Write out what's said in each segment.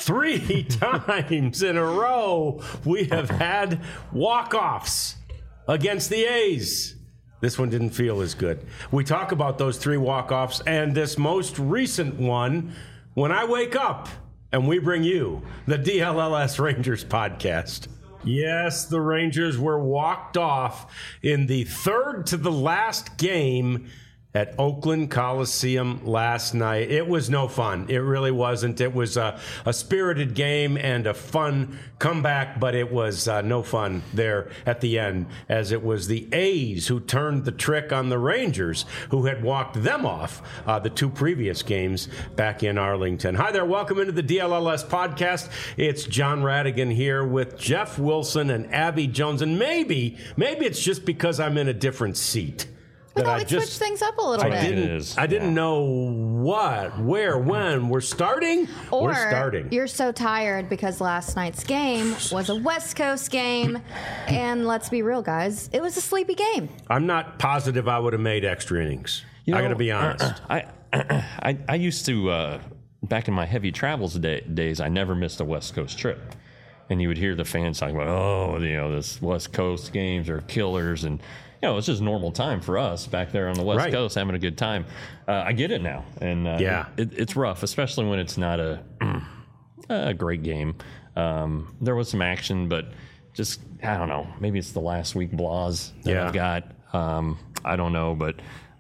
3 times in a row we have had walk-offs against the A's. This one didn't feel as good. We talk about those 3 walk-offs and this most recent one when I wake up and we bring you the DLLS Rangers podcast. Yes, the Rangers were walked off in the third to the last game at Oakland Coliseum last night. It was no fun. It really wasn't. It was a spirited game and a fun comeback, but it was no fun there at the end, as it was the A's who turned the trick on the Rangers, who had walked them off the 2 previous games back in Arlington. Hi there. Welcome into the DLLS podcast. It's John Radigan here with Jeff Wilson and Abby Jones. And maybe it's just because I'm in a different seat. We thought we'd switch things up a little bit. I didn't know what, where, when. We're starting? Or we're starting. You're so tired because last night's game was a West Coast game. And let's be real, guys, it was a sleepy game. I'm not positive I would have made extra innings. I got to be honest. I used to, back in my heavy travels days, I never missed a West Coast trip. And you would hear the fans talking about, this West Coast games are killers. And it's just normal time for us back there on the West Coast having a good time. I get it now. And it's rough, especially when it's not a great game. There was some action, but just, I don't know, maybe it's the last week blahs that I've got. I don't know, but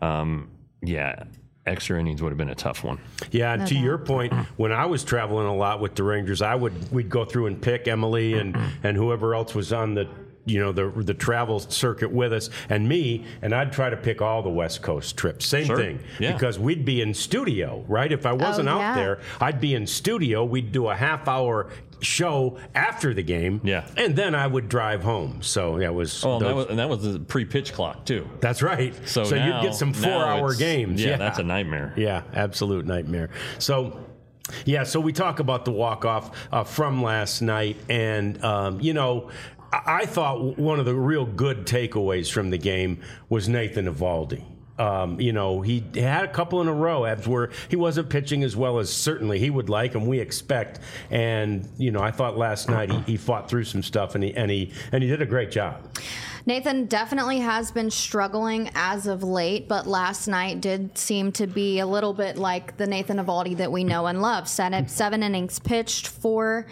extra innings would have been a tough one. Yeah, and to your point, when I was traveling a lot with the Rangers, we'd go through and pick Emily and whoever else was on the travel circuit with us and me, and I'd try to pick all the West Coast trips. Same thing. Yeah. Because we'd be in studio, right? If I wasn't out there, I'd be in studio. We'd do a half-hour show after the game, and then I would drive home. So it was. Oh, that was the pre-pitch clock too. That's right. So now, you'd get some 4-hour games. Yeah, that's a nightmare. Yeah, absolute nightmare. So we talk about the walk-off from last night, and I thought one of the real good takeaways from the game was Nathan Eovaldi. He had a couple in a row where he wasn't pitching as well as certainly he would like and we expect. And I thought last night he fought through some stuff and he did a great job. Nathan definitely has been struggling as of late, but last night did seem to be a little bit like the Nathan Eovaldi that we know and love. 7 innings pitched, 4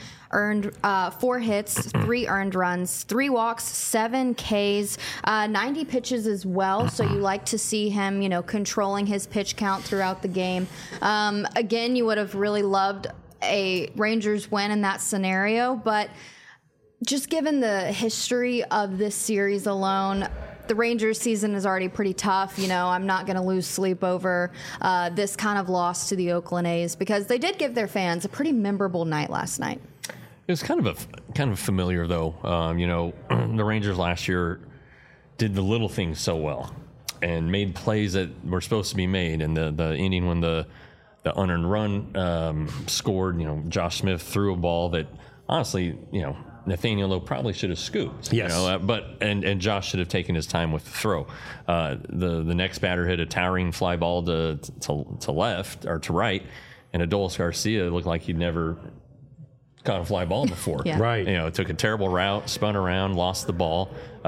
hits, 3 earned runs, 3 walks, 7 Ks, 90 pitches as well. So you like to see him, controlling his pitch count throughout the game. Again, you would have really loved a Rangers win in that scenario, but just given the history of this series alone, the Rangers season is already pretty tough. I'm not going to lose sleep over this kind of loss to the Oakland A's because they did give their fans a pretty memorable night last night. It was kind of familiar though. The Rangers last year did the little things so well and made plays that were supposed to be made. And the inning when the unearned run scored, Josh Smith threw a ball that honestly, Nathaniel Lowe probably should have scooped. Yes. And Josh should have taken his time with the throw. The next batter hit a towering fly ball to left or to right, and Adolis Garcia looked like he'd never caught a fly ball before. Yeah. Right. It took a terrible route, spun around, lost the ball.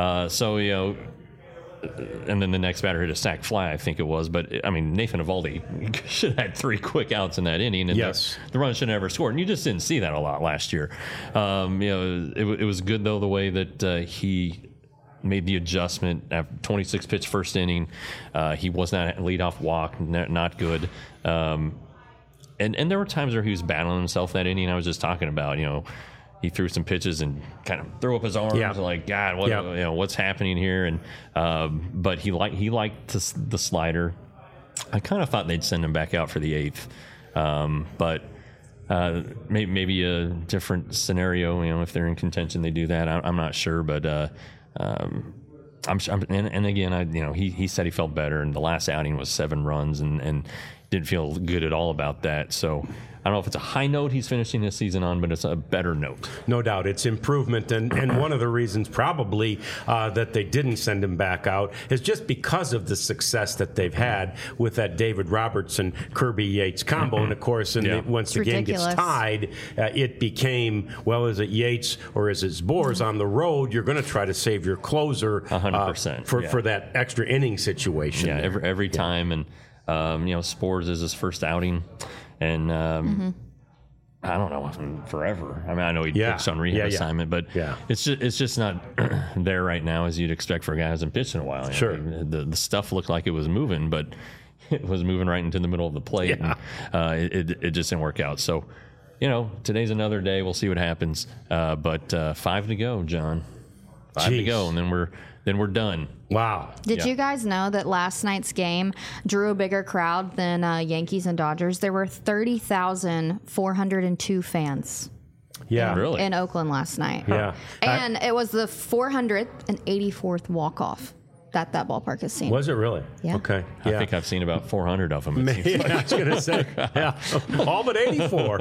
And then the next batter hit a sac fly, I think it was. But, Nathan Eovaldi should have had 3 quick outs in that inning. And the run should have never scored. And you just didn't see that a lot last year. It was good, though, the way that he made the adjustment after 26-pitch first inning. He was not a leadoff walk, not good. And there were times where he was battling himself that inning I was just talking about, he threw some pitches and kind of threw up his arms like, God, what's happening here? And but he liked the slider. I kind of thought they'd send him back out for the 8th, but maybe a different scenario. If they're in contention, they do that. I'm not sure, but and again, he said he felt better, and the last outing was 7 runs and didn't feel good at all about that. So I don't know if it's a high note he's finishing his season on, but it's a better note. No doubt. It's improvement. And one of the reasons probably that they didn't send him back out is just because of the success that they've had with that David Robertson, Kirby Yates combo. And, of course, once the game gets tied, it became, well, is it Yates or is it Zbors on the road? You're going to try to save your closer 100%, for that extra inning situation. Yeah, every time. And, Zbors is his first outing. And I don't know, forever. I mean, I know he pitched on rehab assignment, but it's just not there right now as you'd expect for a guy who hasn't pitched in a while. Sure. I mean, the stuff looked like it was moving, but it was moving right into the middle of the plate, and it just didn't work out. So, today's another day. We'll see what happens. But 5 to go, John. 5 to go, and then we're done. Wow. Did you guys know that last night's game drew a bigger crowd than Yankees and Dodgers? There were 30,402 fans. Really? In Oakland last night. Yeah. And it was the 484th walk-off that ballpark has seen. Was it really? Yeah. Okay. I think I've seen about 400 of them. I was going to say, all but 84.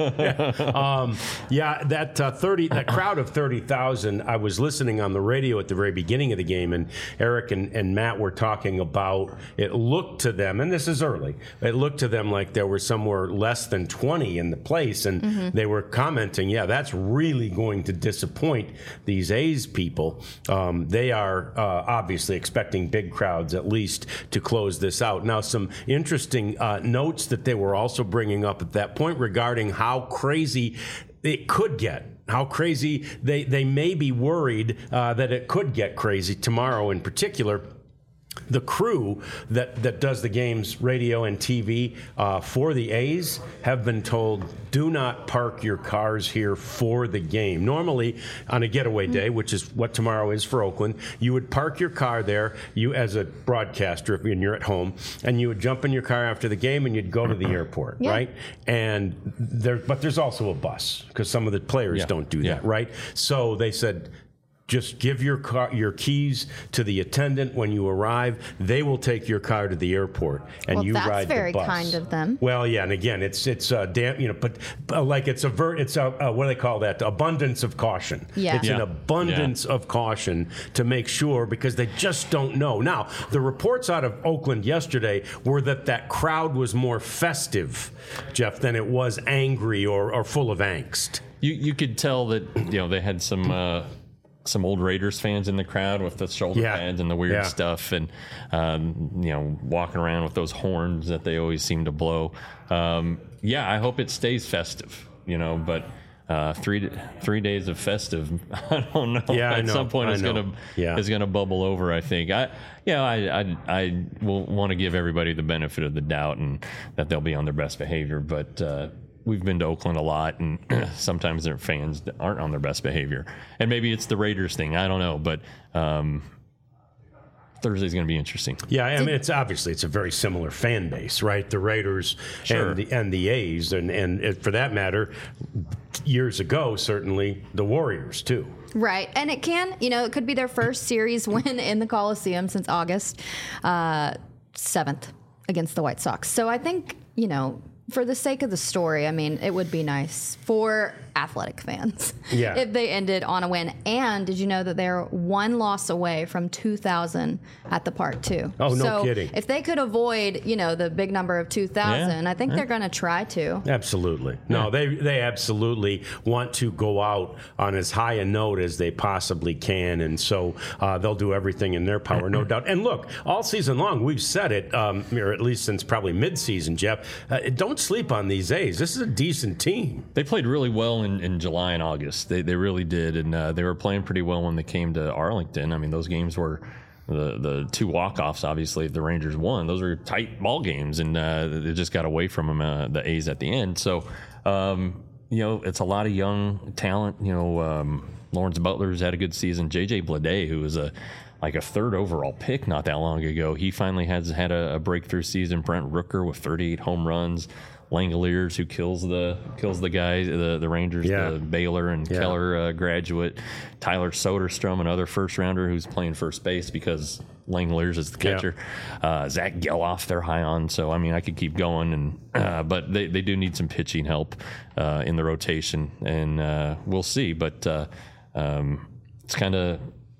That crowd of 30,000. I was listening on the radio at the very beginning of the game, and Eric and Matt were talking about. It looked to them, and this is early. It looked to them like there were somewhere less than 20 in the place, and they were commenting, that's really going to disappoint these A's people. They are obviously expecting big crowds at least to close this out. Now, some interesting notes that they were also bringing up at that point regarding how crazy it could get. How crazy they may be worried that it could get crazy tomorrow in particular. The crew that does the games, radio and TV for the A's, have been told, do not park your cars here for the game. Normally, on a getaway day, which is what tomorrow is for Oakland, you would park your car there, you as a broadcaster, when you're at home, and you would jump in your car after the game and you'd go to the airport, right? And but there's also a bus, because some of the players don't do that, right? So they said, just give your keys to the attendant when you arrive. They will take your car to the airport, and you ride the bus. That's very kind of them. Well, yeah, and again, it's but like it's what do they call that? Abundance of caution. Yeah. It's an abundance of caution to make sure, because they just don't know. Now, the reports out of Oakland yesterday were that crowd was more festive, Jeff, than it was angry or full of angst. You could tell that they had some old Raiders fans in the crowd with the shoulder pads and the weird stuff, and walking around with those horns that they always seem to blow. I hope it stays festive, but 3 days of festive, I don't know. At some point it's gonna bubble over, I think. I will want to give everybody the benefit of the doubt and that they'll be on their best behavior, but we've been to Oakland a lot, and sometimes their fans aren't on their best behavior. And maybe it's the Raiders thing. I don't know. But Thursday's going to be interesting. Yeah, I mean, it's a very similar fan base, right? The Raiders and the A's, and for that matter, years ago, certainly the Warriors, too. Right. And it could be their first series win in the Coliseum since August 7th against the White Sox. So I think, for the sake of the story, I mean, it would be nice for Athletic fans if they ended on a win. And did you know that they're one loss away from 2,000 at the park, too? Oh, no kidding. If they could avoid, the big number of 2,000, I think they're going to try to. Absolutely. No, they absolutely want to go out on as high a note as they possibly can. And so they'll do everything in their power, no doubt. And look, all season long, we've said it, or at least since probably midseason, Jeff, don't sleep on these A's. This is a decent team. They played really well in July and August. They really did, and they were playing pretty well when they came to Arlington. I mean, those games were the two walk-offs, obviously, if the Rangers won. Those were tight ball games, and they just got away from them, the A's at the end. So, it's a lot of young talent. Lawrence Butler's had a good season. J.J. Bleday, who was a third overall pick not that long ago, he finally has had a breakthrough season. Brent Rooker with 38 home runs. Langoliers, who kills the guy, the Rangers, the Baylor and Keller graduate, Tyler Soderstrom, another first rounder who's playing first base because Langoliers is the catcher. Zach Geloff, they're high on. So I mean, I could keep going, and but they do need some pitching help in the rotation, and we'll see. But it's kind of.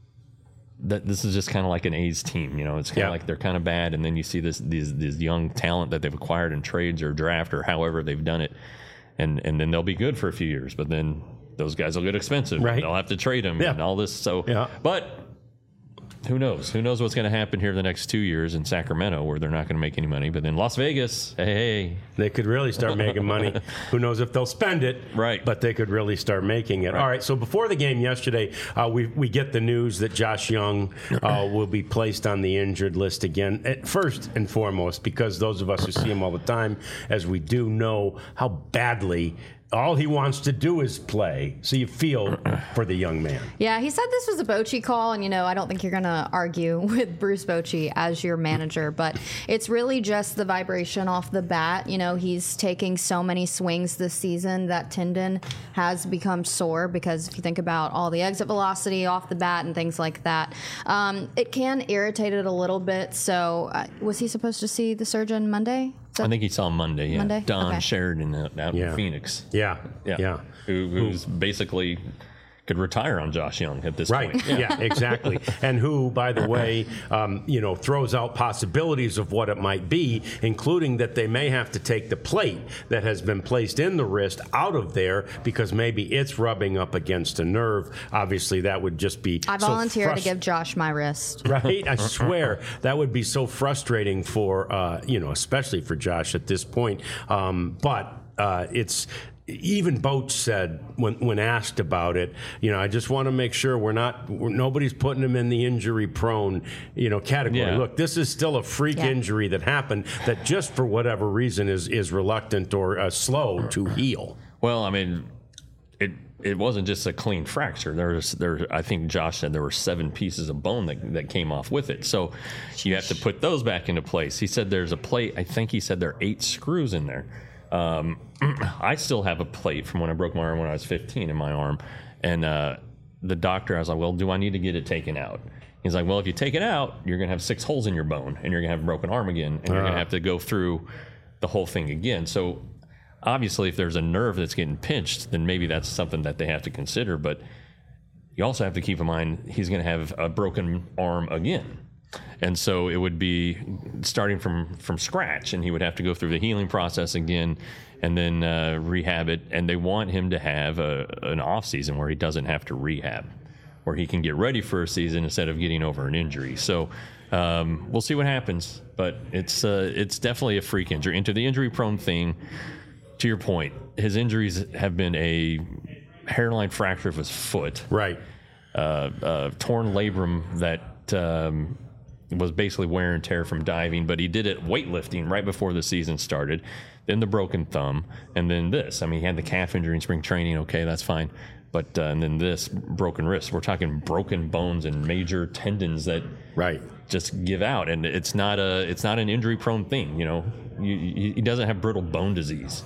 This is just kind of like an A's team, It's kind of like they're kind of bad, and then you see this young talent that they've acquired in trades or draft or however they've done it, and then they'll be good for a few years, but then those guys will get expensive. Right. They'll have to trade them and all this. So, but who knows? Who knows what's going to happen here the next 2 years in Sacramento, where they're not going to make any money, but then Las Vegas, hey. They could really start making money. Who knows if they'll spend it, right? But they could really start making it. Right. All right, so before the game yesterday, we get the news that Josh Young will be placed on the injured list again, first and foremost, because those of us who see him all the time, as we do, know how badly all he wants to do is play. So you feel for the young man. Yeah, he said this was a Bochy call, and I don't think you're going to argue with Bruce Bochy as your manager, but it's really just the vibration off the bat. He's taking so many swings this season that tendon has become sore, because if you think about all the exit velocity off the bat and things like that, it can irritate it a little bit. So was he supposed to see the surgeon Monday? I think he saw him Monday, yeah. Monday? Don Sheridan out in Phoenix. Yeah. Who's basically could retire on Josh Young at this point. Right, yeah, exactly. And who, by the way, throws out possibilities of what it might be, including that they may have to take the plate that has been placed in the wrist out of there because maybe it's rubbing up against a nerve. Obviously, that would just be I volunteer to give Josh my wrist. Right? I swear, that would be so frustrating for, especially for Josh at this point. But it's... Even Boch said when asked about it, I just want to make sure nobody's putting him in the injury prone, category. Yeah. Look, this is still a freak injury that happened that just for whatever reason is reluctant or slow to heal. Well, I mean, it wasn't just a clean fracture. I think Josh said there were 7 pieces of bone that came off with it. So you have to put those back into place. He said there's a plate. I think he said there are 8 screws in there. I still have a plate from when I broke my arm when I was 15 in my arm. And the doctor, I was like, well, do I need to get it taken out? He's like, well, if you take it out, you're going to have 6 holes in your bone, and you're going to have a broken arm again, and you're going to have to go through the whole thing again. So obviously, if there's a nerve that's getting pinched, then maybe that's something that they have to consider. But you also have to keep in mind he's going to have a broken arm again. And so it would be starting from scratch, and he would have to go through the healing process again and then rehab it. And they want him to have an off season where he doesn't have to rehab, where he can get ready for a season instead of getting over an injury. So we'll see what happens, but it's definitely a freak injury. And to the injury prone thing, to your point, his injuries have been a hairline fracture of his foot, right? Torn labrum that was basically wear and tear from diving, but he did it weightlifting right before the season started. Then the broken thumb, and then this. I mean, he had the calf injury in spring training. Okay, that's fine. But and then this broken wrist. We're talking broken bones and major tendons that just give out, and it's not an injury prone thing. He doesn't have brittle bone disease.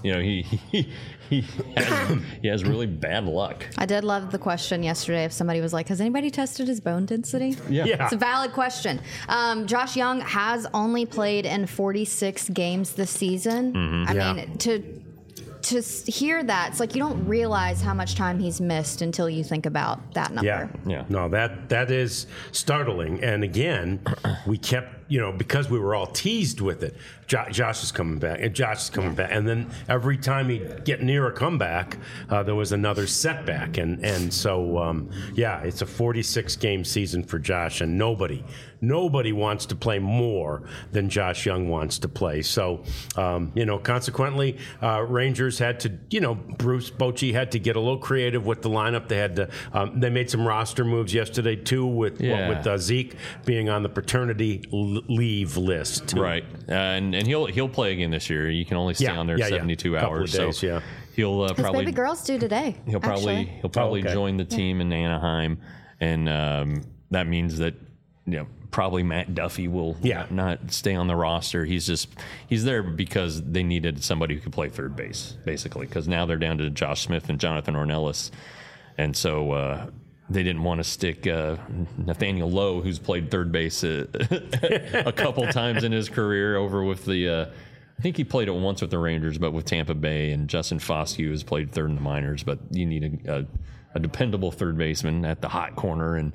He has really bad luck. I did love the question yesterday if somebody was like, has anybody tested his bone density? Yeah. It's a valid question. Josh Young has only played in 46 games this season. Mm-hmm. I mean, to hear that, it's like you don't realize how much time he's missed until you think about that number. Yeah. No, that is startling. And again, we kept, because we were all teased with it. Josh is coming back, and Josh is coming back, and then every time he'd get near a comeback, there was another setback, and so it's a 46-game season for Josh, and nobody wants to play more than Josh Young wants to play. So consequently, Rangers had to, Bruce Bochy had to get a little creative with the lineup. They had to, they made some roster moves yesterday too, with Zeke being on the paternity leave list too. Right, and he'll play again this year. You can only stay on there 72 hours. Days, so he'll his probably baby girl's due today. He'll probably join the team in Anaheim, and that means that probably Matt Duffy will not stay on the roster. He's there because they needed somebody who could play third base, basically, because now they're down to Josh Smith and Jonathan Ornelas. And so they didn't want to stick Nathaniel Lowe, who's played third base a couple times in his career, over with the I think he played it once with the Rangers, but with Tampa Bay, and Justin Foscue has played third in the minors. But you need a dependable third baseman at the hot corner. And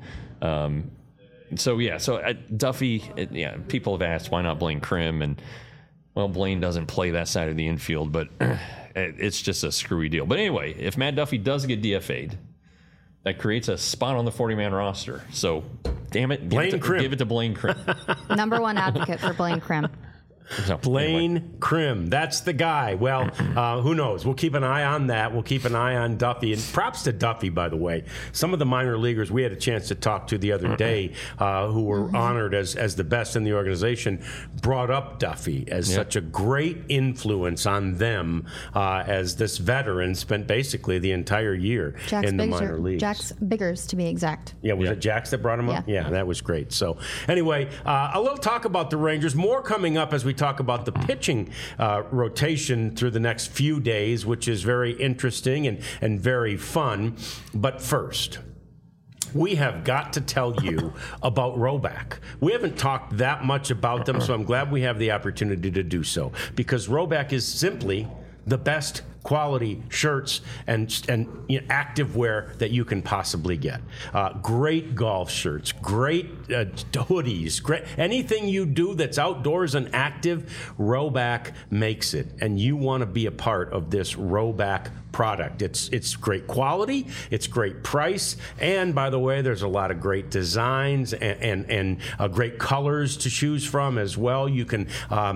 Duffy, people have asked why not Blaine Krim, and well, Blaine doesn't play that side of the infield, but it's just a screwy deal. But anyway, if Matt Duffy does get DFA'd, that creates a spot on the 40-man roster. So, damn it, give it to Blaine Krim. Number one advocate for Blaine Krim. So, Blaine Krim, that's the guy. Well, who knows? We'll keep an eye on that. We'll keep an eye on Duffy. And props to Duffy, by the way. Some of the minor leaguers we had a chance to talk to the other day who were honored as the best in the organization brought up Duffy as such a great influence on them as this veteran spent basically the entire year in the minor leagues. Jax Biggers, to be exact. Yeah, was it Jax that brought him up? Yeah, that was great. So anyway, a little talk about the Rangers. More coming up as we talk about the pitching rotation through the next few days, which is very interesting and very fun. But first, we have got to tell you about Rhoback. We haven't talked that much about them, so I'm glad we have the opportunity to do so, because Rhoback is simply the best quality shirts and active wear that you can possibly get. Great golf shirts, great hoodies, great anything you do that's outdoors and active, Rhoback makes it, and you want to be a part of this Rhoback product. It's great quality, it's great price, and by the way, there's a lot of great designs and great colors to choose from as well. You can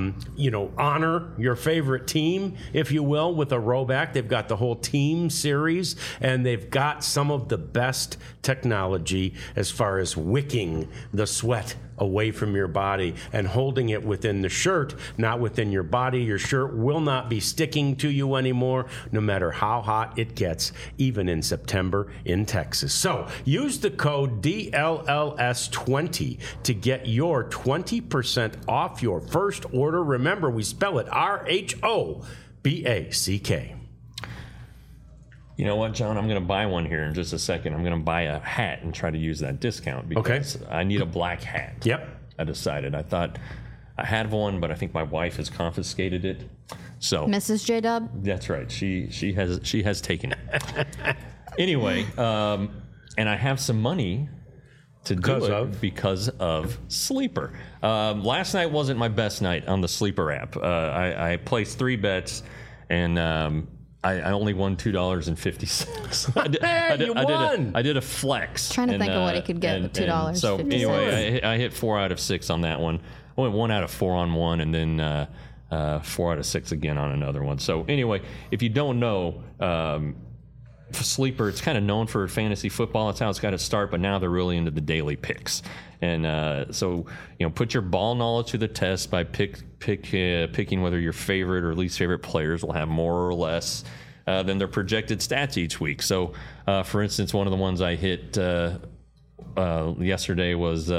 honor your favorite team, if you will, with a Rhoback. They've got the whole team series, and they've got some of the best technology as far as wicking the sweat away from your body and holding it within the shirt, not within your body. Your shirt will not be sticking to you anymore, no matter how hot it gets, even in September in Texas. So use the code DLLS20 to get your 20% off your first order. Remember, we spell it RHOBACK. You know what, John? I'm going to buy one here in just a second. I'm going to buy a hat and try to use that discount because I need a black hat. Yep. I decided. I thought I had one, but I think my wife has confiscated it. So Mrs. J-Dub? That's right. She has taken it. Anyway, and I have some money to do it because of Sleeper. Last night wasn't my best night on the Sleeper app. I placed 3 bets, and I only won $2.50. I did a flex. Trying to think of what he could get with $2.50. So anyway, I hit 4 out of 6 on that one. I went 1 out of 4 on one, and then 4 out of 6 again on another one. So anyway, if you don't know, Sleeper, it's kind of known for fantasy football. That's how it's got to start, but now they're really into the daily picks. And so, put your ball knowledge to the test by picking whether your favorite or least favorite players will have more or less than their projected stats each week. So, for instance, one of the ones I hit yesterday was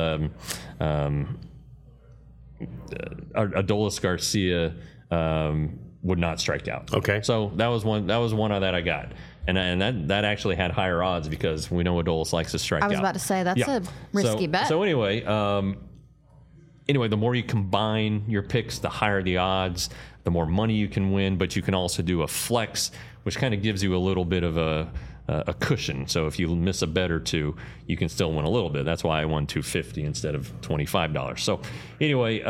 Adolis Garcia would not strike out. Okay. So that was one that I got. And that actually had higher odds because we know Adolis likes to strike out. I was about to say, that's a risky bet. So anyway, the more you combine your picks, the higher the odds, the more money you can win. But you can also do a flex, which kind of gives you a little bit of a cushion. So if you miss a bet or two, you can still win a little bit. That's why I won $250 instead of $25. So anyway,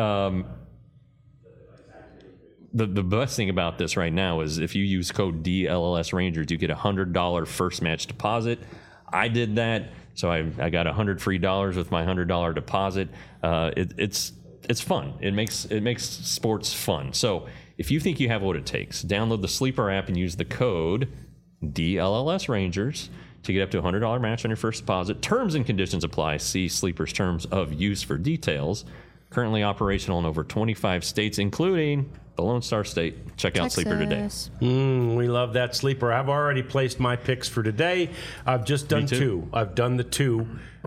the best thing about this right now is if you use code DLLS Rangers, you get $100 first match deposit. I did that, so I got $100 free with my $100 deposit. It's fun. It makes sports fun. So if you think you have what it takes, download the Sleeper app and use the code DLLS Rangers to get up to a $100 match on your first deposit. Terms and conditions apply. See Sleeper's terms of use for details. currently operational in over 25 states, including the Lone Star State. Check out Texas. Sleeper today. We love that Sleeper. I've already placed my picks for today. I've just done two. I've done the two,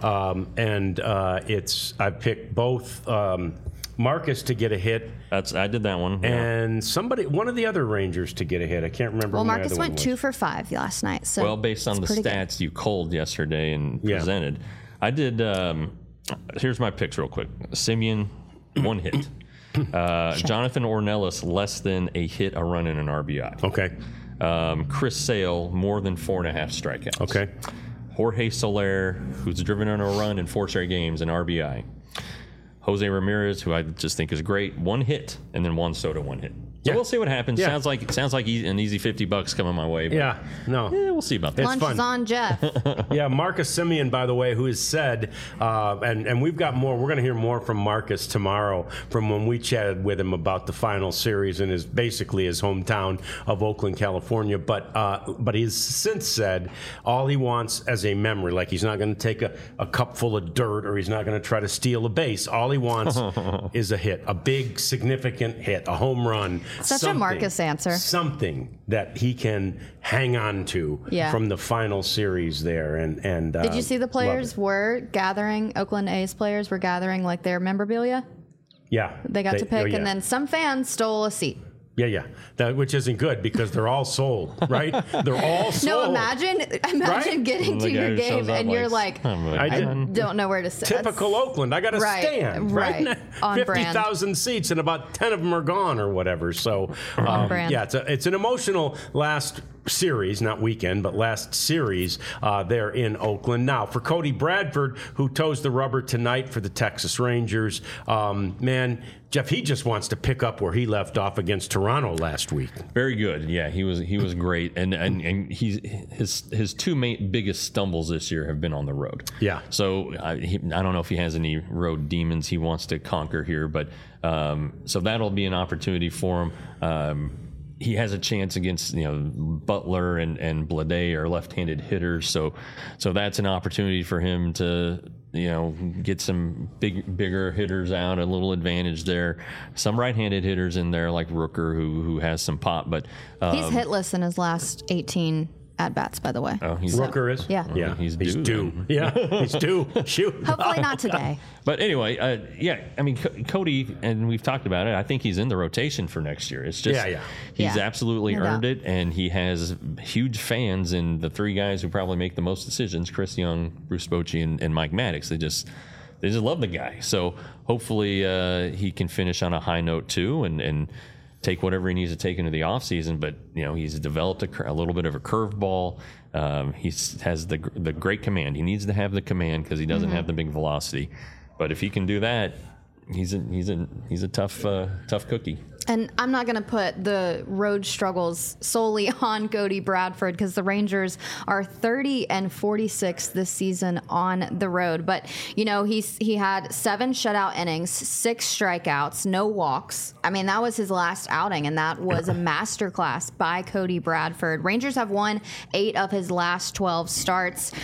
and I've picked both Marcus to get a hit. I did that one. And one of the other Rangers to get a hit. I can't remember. Well, who Marcus went 2 for 5 last night. So well, based on the stats you culled yesterday and presented, I did. Here's my picks real quick. Simeon, 1 hit. Jonathan Ornelas, less than a hit, a run, and an RBI. Okay. Chris Sale, more than 4.5 strikeouts. Okay. Jorge Soler, who's driven on a run in 4 straight games, an RBI. Jose Ramirez, who I just think is great, 1 hit, and then Juan Soto, 1 hit. So we'll see what happens. Yeah. Sounds like an easy $50 coming my way. Yeah, no. We'll see about that. Lunch is on Jeff. Yeah, Marcus Simeon, by the way, who has said, and we've got more. We're going to hear more from Marcus tomorrow from when we chatted with him about the final series in basically his hometown of Oakland, California. But he's since said all he wants as a memory, like he's not going to take a cup full of dirt or he's not going to try to steal a base. All he wants is a hit, a big, significant hit, a home run. Such a Marcus answer. Something that he can hang on to from the final series there. And did you see the players were gathering? Oakland A's players were gathering like their memorabilia. Yeah, they got to pick, and then some fans stole a seat. Yeah. Which isn't good because they're all sold, right? They're all sold. No, imagine getting to your game and you're like, I don't know where to sit. Typical Oakland. I got to stand, right? On 50,000 seats and about 10 of them are gone or whatever. So, on brand. Yeah, it's an emotional last series, not weekend, but last series there in Oakland. Now, for Cody Bradford, who toes the rubber tonight for the Texas Rangers, man, Jeff, he just wants to pick up where he left off against Toronto last week. Very good. Yeah, he was great, and his 2 biggest stumbles this year have been on the road. Yeah. So I don't know if he has any road demons he wants to conquer here, but so that'll be an opportunity for him. He has a chance against Butler and Blade are left-handed hitters, so that's an opportunity for him to get some bigger hitters out, a little advantage there. Some right-handed hitters in there like Rooker who has some pop, but he's hitless in his last 18 at bats, by the way. Oh, Rooker is? Yeah. Yeah, he's due. Yeah, he's due. Shoot. Hopefully not today. But anyway, I mean, Cody, and we've talked about it, I think he's in the rotation for next year. It's just, he's absolutely earned it, and he has huge fans, and the 3 guys who probably make the most decisions, Chris Young, Bruce Bochy, and Mike Maddox, they just love the guy. So hopefully he can finish on a high note too, and take whatever he needs to take into the offseason. But he's developed a little bit of a curveball. He has the great command. He needs to have the command because he doesn't have the big velocity. But if he can do that, he's a tough cookie. And I'm not going to put the road struggles solely on Cody Bradford because the Rangers are 30-46 this season on the road. But, he had 7 shutout innings, 6 strikeouts, no walks. I mean, that was his last outing, and that was a masterclass by Cody Bradford. Rangers have won 8 of his last 12 starts.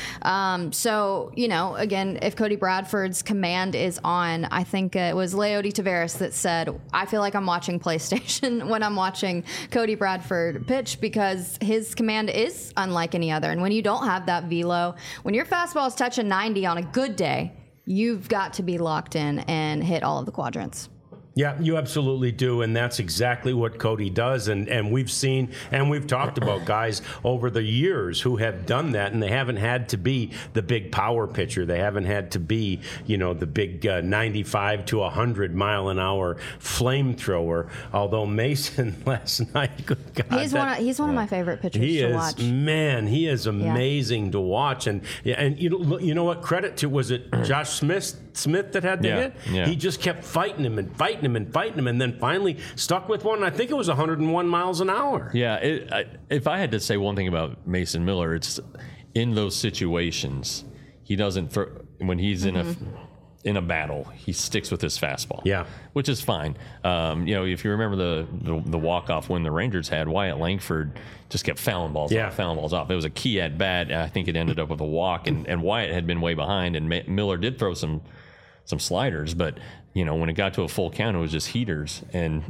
So, again, if Cody Bradford's command is on, I think it was Leody Taveras that said, I feel like I'm watching PlayStation when I'm watching Cody Bradford pitch because his command is unlike any other. And when you don't have that velo, when your fastball is touching 90 on a good day, you've got to be locked in and hit all of the quadrants. Yeah, you absolutely do, and that's exactly what Cody does. And we've seen and we've talked about guys over the years who have done that, and they haven't had to be the big power pitcher. They haven't had to be, the big 95 to 100 mile an hour flamethrower. Although Mason last night, good God, he's one of my favorite pitchers to watch. Man, he is amazing to watch. And you know what? Credit to, was it Josh Smith that had the hit? Yeah. He just kept fighting him, and then finally stuck with one. I think it was 101 miles an hour. Yeah, if I had to say one thing about Mason Miller, it's in those situations, he doesn't throw, when he's in a battle, he sticks with his fastball. Yeah, which is fine. If you remember the walk-off win the Rangers had, Wyatt Langford just kept fouling balls off. It was a key at bat. I think it ended up with a walk, and Wyatt had been way behind, and Miller did throw some sliders, but when it got to a full count, it was just heaters, and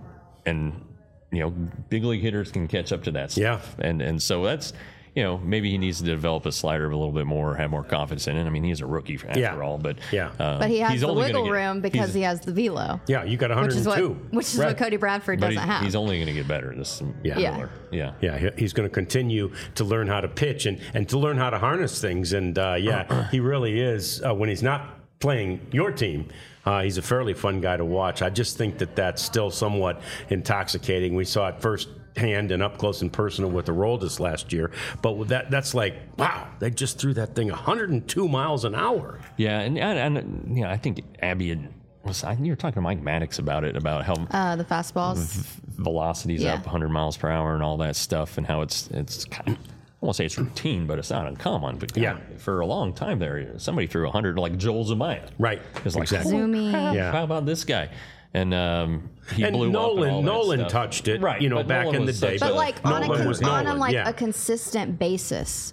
big league hitters can catch up to that stuff. Yeah. And so that's, maybe he needs to develop his slider a little bit more, have more confidence in it. I mean, he's a rookie after all, but but he has the wiggle room because he has the velo. Yeah, you got 102, which is what Cody Bradford doesn't have. He's only going to get better. This He's going to continue to learn how to pitch and to learn how to harness things. And he really is. When he's not playing your team, he's a fairly fun guy to watch. I just think that's still somewhat intoxicating. We saw it first hand and up close and personal with the Aroldis last year, but that's like, wow, they just threw that thing 102 miles an hour. Yeah, and I think Abby you were talking to Mike Maddox about how the fastballs velocity's up 100 miles per hour and all that stuff, and how it's kind of, I won't say it's routine, but it's not uncommon. But for a long time there, somebody threw 100 like Joel Zumaya. Right. It's like, Zoomy. How about this guy? And he blew up and all that Nolan stuff. touched it, right? Back in the day. But like on Nolan, a consistent basis,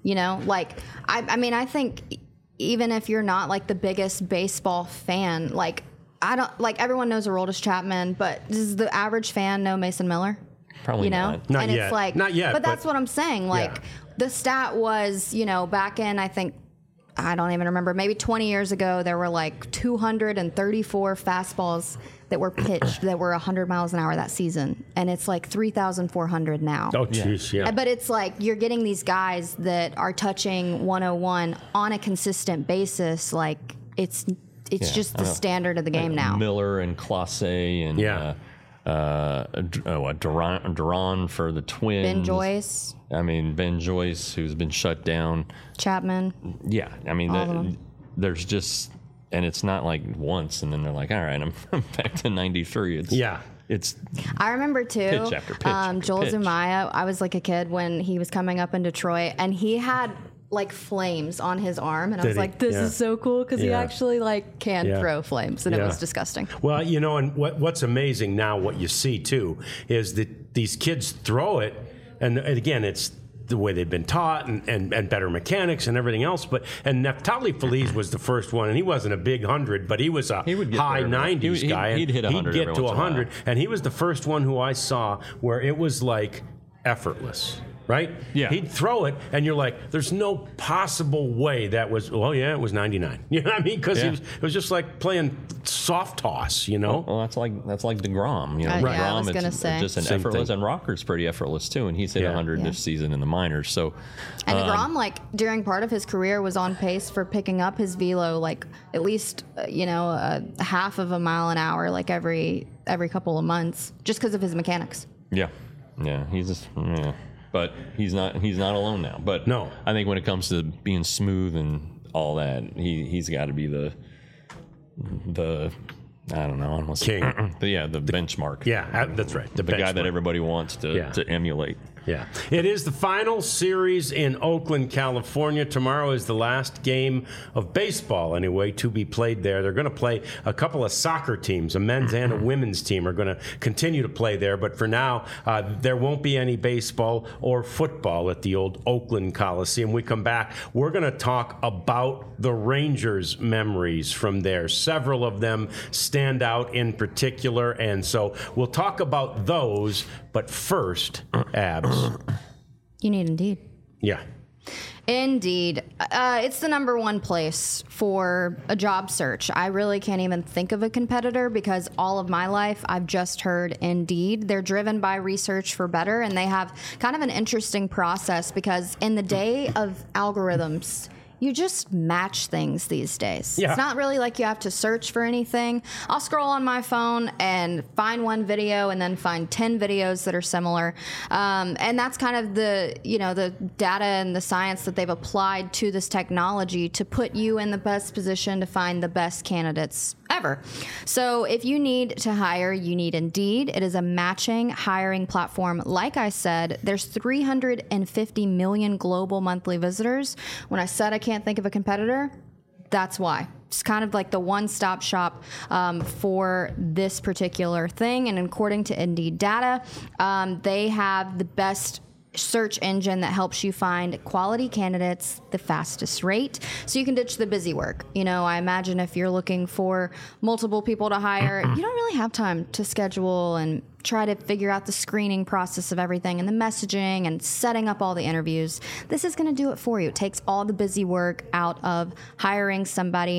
I think even if you're not like the biggest baseball fan, like I don't like everyone knows Aroldis Chapman, but does the average fan know Mason Miller? Probably not. Not and yet. It's like, not yet. But that's what I'm saying. Like the stat was, back in I don't even remember, maybe 20 years ago, there were like 234 fastballs that were pitched that were 100 miles an hour that season. And it's like 3,400 now. Oh, jeez, yeah. But it's like you're getting these guys that are touching 101 on a consistent basis. Like it's just the standard of the game now. Miller and Clase and Duran for the Twins. Ben Joyce. Ben Joyce, who's been shut down. Chapman. Yeah, there's just, and it's not like once, and then they're like, all right, I'm back to 93. I remember too. Pitch after pitch. Joel Zumaya. I was like a kid when he was coming up in Detroit, and he had like flames on his arm, and I was like, this is so cool because he actually like can throw flames, and it was disgusting. Well, and what's amazing now, what you see too, is that these kids throw it, and again, it's the way they've been taught and better mechanics and everything else. And Neftali Feliz was the first one, and he wasn't a big 100, but he was a high 90s guy. He'd hit 100. He'd get to 100, and he was the first one who I saw where it was like effortless. Right? Yeah. He'd throw it, and you're like, there's no possible way that was, it was 99. You know what I mean? Because it was just like playing soft toss, Well, that's like DeGrom. Right. I was going to say. Just an Same effortless, thing. And Rocker's pretty effortless, too, and he's hit 100 this season in the minors. So, and DeGrom, during part of his career, was on pace for picking up his velo, at least, a half of a mile an hour, every couple of months, just because of his mechanics. Yeah. He's just, But he's not alone now. But no, I think when it comes to being smooth and all that, he's got to be the I don't know, almost king. the benchmark. Yeah, that's right. The guy that everybody wants to emulate. Yeah. It is the final series in Oakland, California. Tomorrow is the last game of baseball, anyway, to be played there. They're going to play a couple of soccer teams. A men's and a women's team are going to continue to play there. But for now, there won't be any baseball or football at the old Oakland Coliseum. We come back, we're going to talk about the Rangers' memories from there. Several of them stand out in particular. And so we'll talk about those. But first, Abs. You need Indeed. Yeah. Indeed. It's the number one place for a job search. I really can't even think of a competitor because all of my life I've just heard Indeed. They're driven by research for better, and they have kind of an interesting process because in the day of algorithms, you just match things these days. Yeah. It's not really like you have to search for anything. I'll scroll on my phone and find one video and then find 10 videos that are similar. And that's kind of the data and the science that they've applied to this technology to put you in the best position to find the best candidates ever. So if you need to hire, you need Indeed. It is a matching hiring platform. Like I said, there's 350 million global monthly visitors. When I said I can't think of a competitor, that's why. It's kind of like the one-stop shop for this particular thing. And according to Indeed data, they have the best search engine that helps you find quality candidates the fastest rate, so you can ditch the busy work. I imagine if you're looking for multiple people to hire, you don't really have time to schedule and try to figure out the screening process of everything and the messaging and setting up all the interviews. This is going to do it for you. It takes all the busy work out of hiring somebody.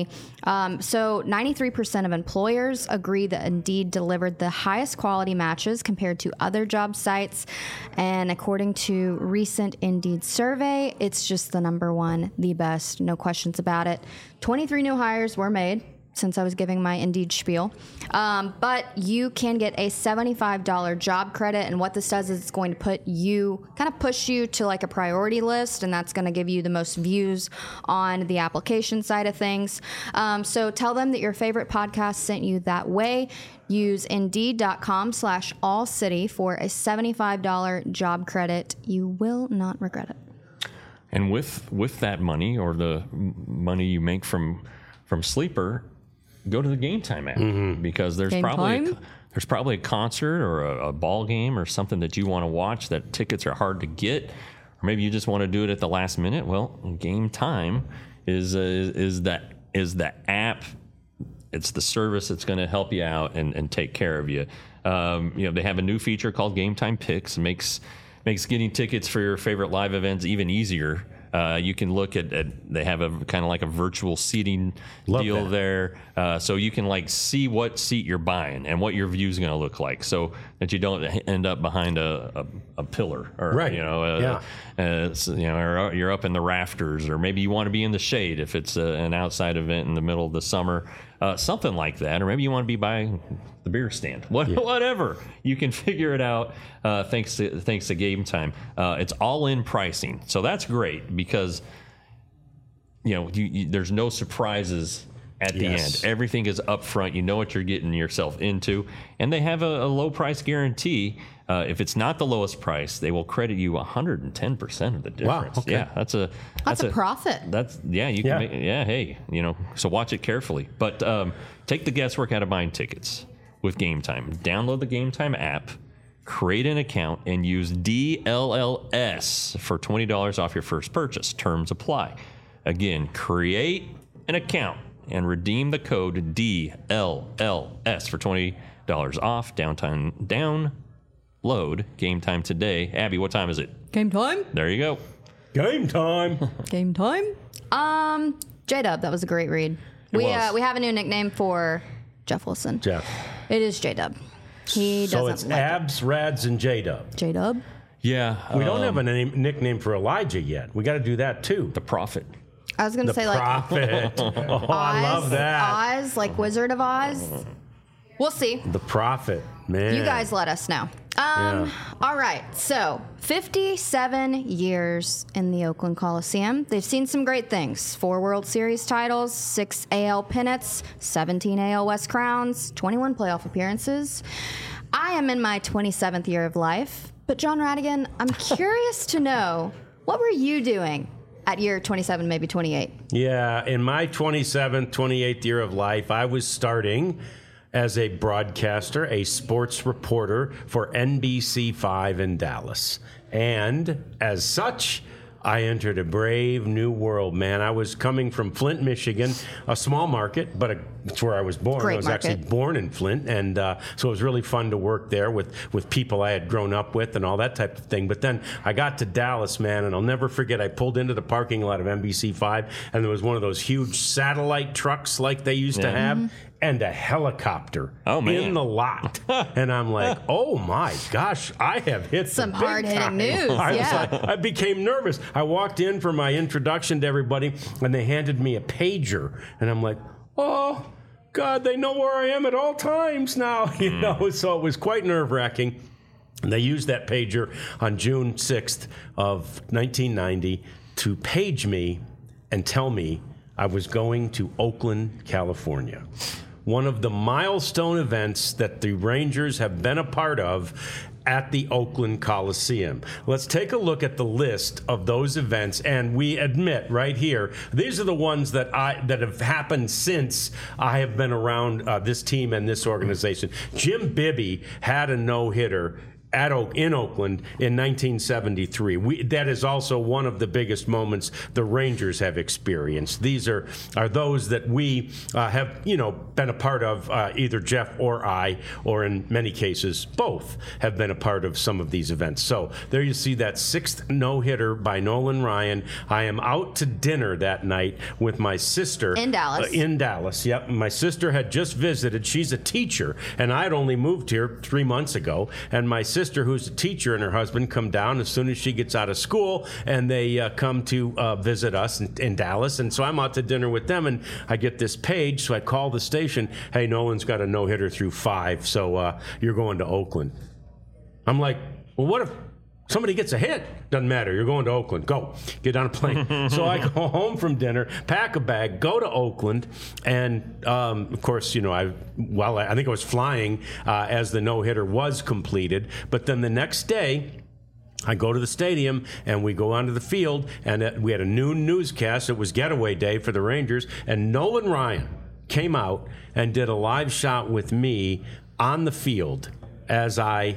So 93% of employers agree that Indeed delivered the highest quality matches compared to other job sites. And according to recent Indeed survey, it's just the number one, the best, no questions about it. 23 new hires were made since I was giving my Indeed spiel. But you can get a $75 job credit. And what this does is it's going to push you to like a priority list. And that's going to give you the most views on the application side of things. So tell them that your favorite podcast sent you that way. Use Indeed.com/allcity for a $75 job credit. You will not regret it. And with that money, or the money you make from Sleeper, go to the Game Time app, because there's probably a concert or a ball game or something that you want to watch that tickets are hard to get, or maybe you just want to do it at the last minute. Well, Game Time is the app. It's the service that's going to help you out and take care of you. They have a new feature called Game Time Picks. It makes getting tickets for your favorite live events even easier. You can look at they have a kind of like a virtual seating deal there. So you can like see what seat you're buying and what your view is going to look like, so that you don't end up behind a pillar, or, right. Or you're up in the rafters, or maybe you want to be in the shade if it's an outside event in the middle of the summer, something like that. Or maybe you want to be by the beer stand, whatever. You can figure it out thanks to Game Time. It's all in pricing, so that's great, because there's no surprises at the end. Everything is up front. You know what you're getting yourself into, and they have a low price guarantee. If it's not the lowest price, they will credit you 110% of the difference. Wow, okay. Yeah, that's a profit. So watch it carefully, but take the guesswork out of buying tickets with Game Time. Download the Game Time app, create an account, and use DLLS for $20 off your first purchase. Terms apply. Again, create an account and redeem the code DLLS for $20 off. Download Game Time today. Abby, what time is it? Game time. There you go. Game time. Game time. J-Dub, that was a great read. We have a new nickname for Jeff Wilson. Jeff. It is J-Dub. He doesn't. So it's Abs, Rads, and J-Dub. J-Dub. Yeah. We don't have a nickname for Elijah yet. We got to do that too. The Prophet. I was going to say Prophet. Oz, I love that. Oz, like Wizard of Oz. We'll see. The Prophet, man. You guys let us know. All right. So 57 years in the Oakland Coliseum. They've seen some great things. 4 World Series titles, 6 AL pennants, 17 AL West crowns, 21 playoff appearances. I am in my 27th year of life. But John Radigan, I'm curious to know, what were you doing at year 27, maybe 28? Yeah, in my 27th, 28th year of life, I was starting as a broadcaster, a sports reporter for NBC5 in Dallas. And as such, I entered a brave new world, man. I was coming from Flint, Michigan, a small market, but it's where I was born. Great I was market. actually born in Flint, and so it was really fun to work there with people I had grown up with and all that type of thing. But then I got to Dallas, man, and I'll never forget, I pulled into the parking lot of NBC5, and there was one of those huge satellite trucks like they used to have, and a helicopter in the lot. And I'm like, oh my gosh, I have hit some the big hard-hitting time. news. I became nervous. I walked in for my introduction to everybody, and they handed me a pager, and I'm like, oh God, they know where I am at all times now. You know, so it was quite nerve-wracking. And they used that pager on June 6th of 1990 to page me and tell me I was going to Oakland, California. One of the milestone events that the Rangers have been a part of at the Oakland Coliseum. Let's take a look at the list of those events, and we admit right here, these are the ones that have happened since I have been around this team and this organization. Jim Bibby had a no-hitter in Oakland in 1973. That is also one of the biggest moments the Rangers have experienced. These are those that we have, been a part of, either Jeff or I, or in many cases, both have been a part of some of these events. So there you see that 6th no-hitter by Nolan Ryan. I am out to dinner that night with my sister. In Dallas. In Dallas, yep. My sister had just visited. She's a teacher, and I had only moved here 3 months ago, and my sister, who's a teacher, and her husband come down as soon as she gets out of school, and they come to visit us in Dallas. And so I'm out to dinner with them, and I get this page. So I call the station. Hey, Nolan's got a no-hitter through 5, so you're going to Oakland. I'm like, well, what if somebody gets a hit? Doesn't matter. You're going to Oakland. Go. Get on a plane. So I go home from dinner, pack a bag, go to Oakland, and of course, I think I was flying as the no-hitter was completed. But then the next day, I go to the stadium, and we go onto the field, and we had a noon newscast. It was getaway day for the Rangers, and Nolan Ryan came out and did a live shot with me on the field as I,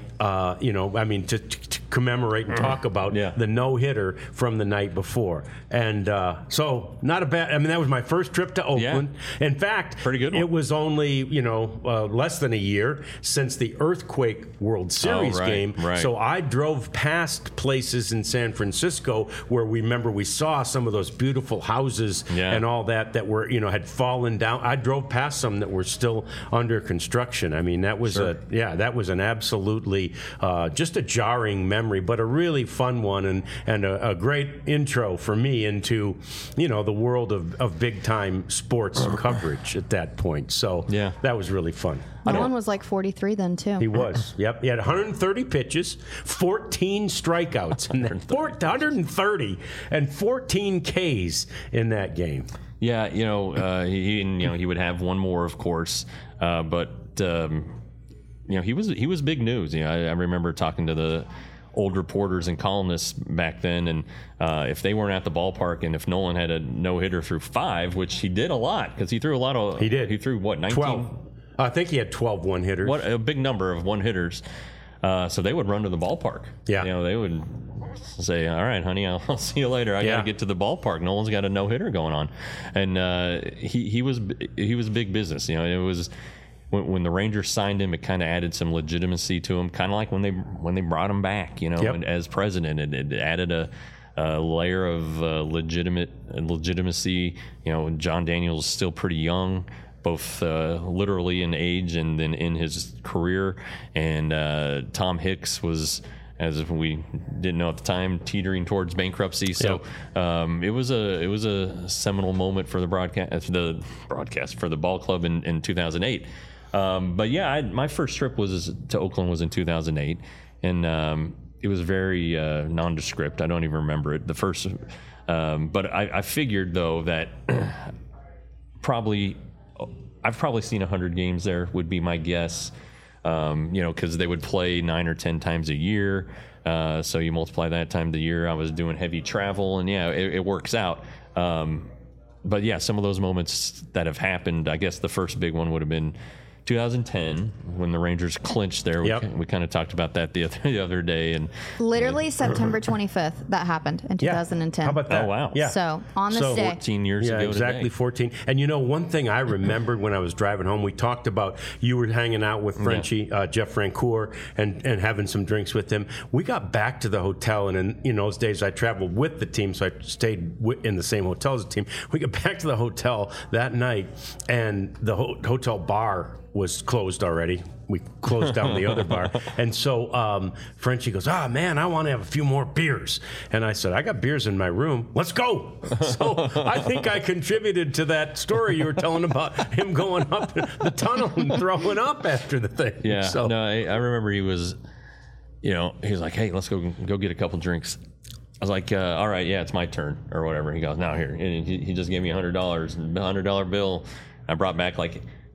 to commemorate and talk about the no-hitter from the night before. And so not a bad, that was my first trip to Oakland. Yeah. In fact, pretty good one. It was only, less than a year since the Earthquake World Series game. Right. So I drove past places in San Francisco where we saw some of those beautiful houses and all that were, had fallen down. I drove past some that were still under construction. That was that was an absolutely just a jarring memory, but a really fun one, and a great intro for me into the world of big time sports coverage at that point. So that was really fun. Nolan was like 43 then too. He was. Yep. He had 130 pitches, 14 strikeouts, and 130 and 14 Ks in that game. Yeah, he would have one more, of course, but. He was big news. I remember talking to the old reporters and columnists back then, and if they weren't at the ballpark, and if Nolan had a no-hitter through 5, which he did a lot, because he threw a lot of. He did. He threw what, 19? 12. I think he had 12 one-hitters. What a big number of one-hitters. So they would run to the ballpark. Yeah. They would say, "All right, honey, I'll see you later. I got to get to the ballpark. Nolan's got a no-hitter going on," and he was big business. It was. When the Rangers signed him, it kind of added some legitimacy to him, kind of like when they brought him back, as president. It added a layer of legitimacy. John Daniels is still pretty young, both literally in age and then in his career. And Tom Hicks was, as we didn't know at the time, teetering towards bankruptcy. So it was a seminal moment for the broadcast for the ball club in 2008. But my first trip to Oakland was in 2008, and it was very nondescript. I don't even remember it. The first, but I figured though that I've probably seen 100 games there would be my guess. Because they would play 9 or 10 times a year. So you multiply that time the year. I was doing heavy travel, and it works out. But some of those moments that have happened, I guess the first big one would have been 2010 when the Rangers clinched there. We kind of talked about that the other day, and literally September 25th that happened in 2010. How about that? Oh wow! Yeah. So on this day, 14 years ago. Exactly today. 14. And one thing I remembered when I was driving home, we talked about you were hanging out with Frenchie, Jeff Francoeur, and having some drinks with him. We got back to the hotel, and in those days I traveled with the team, so I stayed in the same hotel as the team. We got back to the hotel that night, and the hotel bar was closed already. We closed down the other bar. And so Frenchie goes, man, I want to have a few more beers. And I said, I got beers in my room. Let's go. So I think I contributed to that story you were telling about him going up the tunnel and throwing up after the thing. Yeah. So. No, I remember he was like, hey, let's go get a couple drinks. I was like, all right, it's my turn or whatever. He goes, now here. And he just gave me $100 bill. I brought back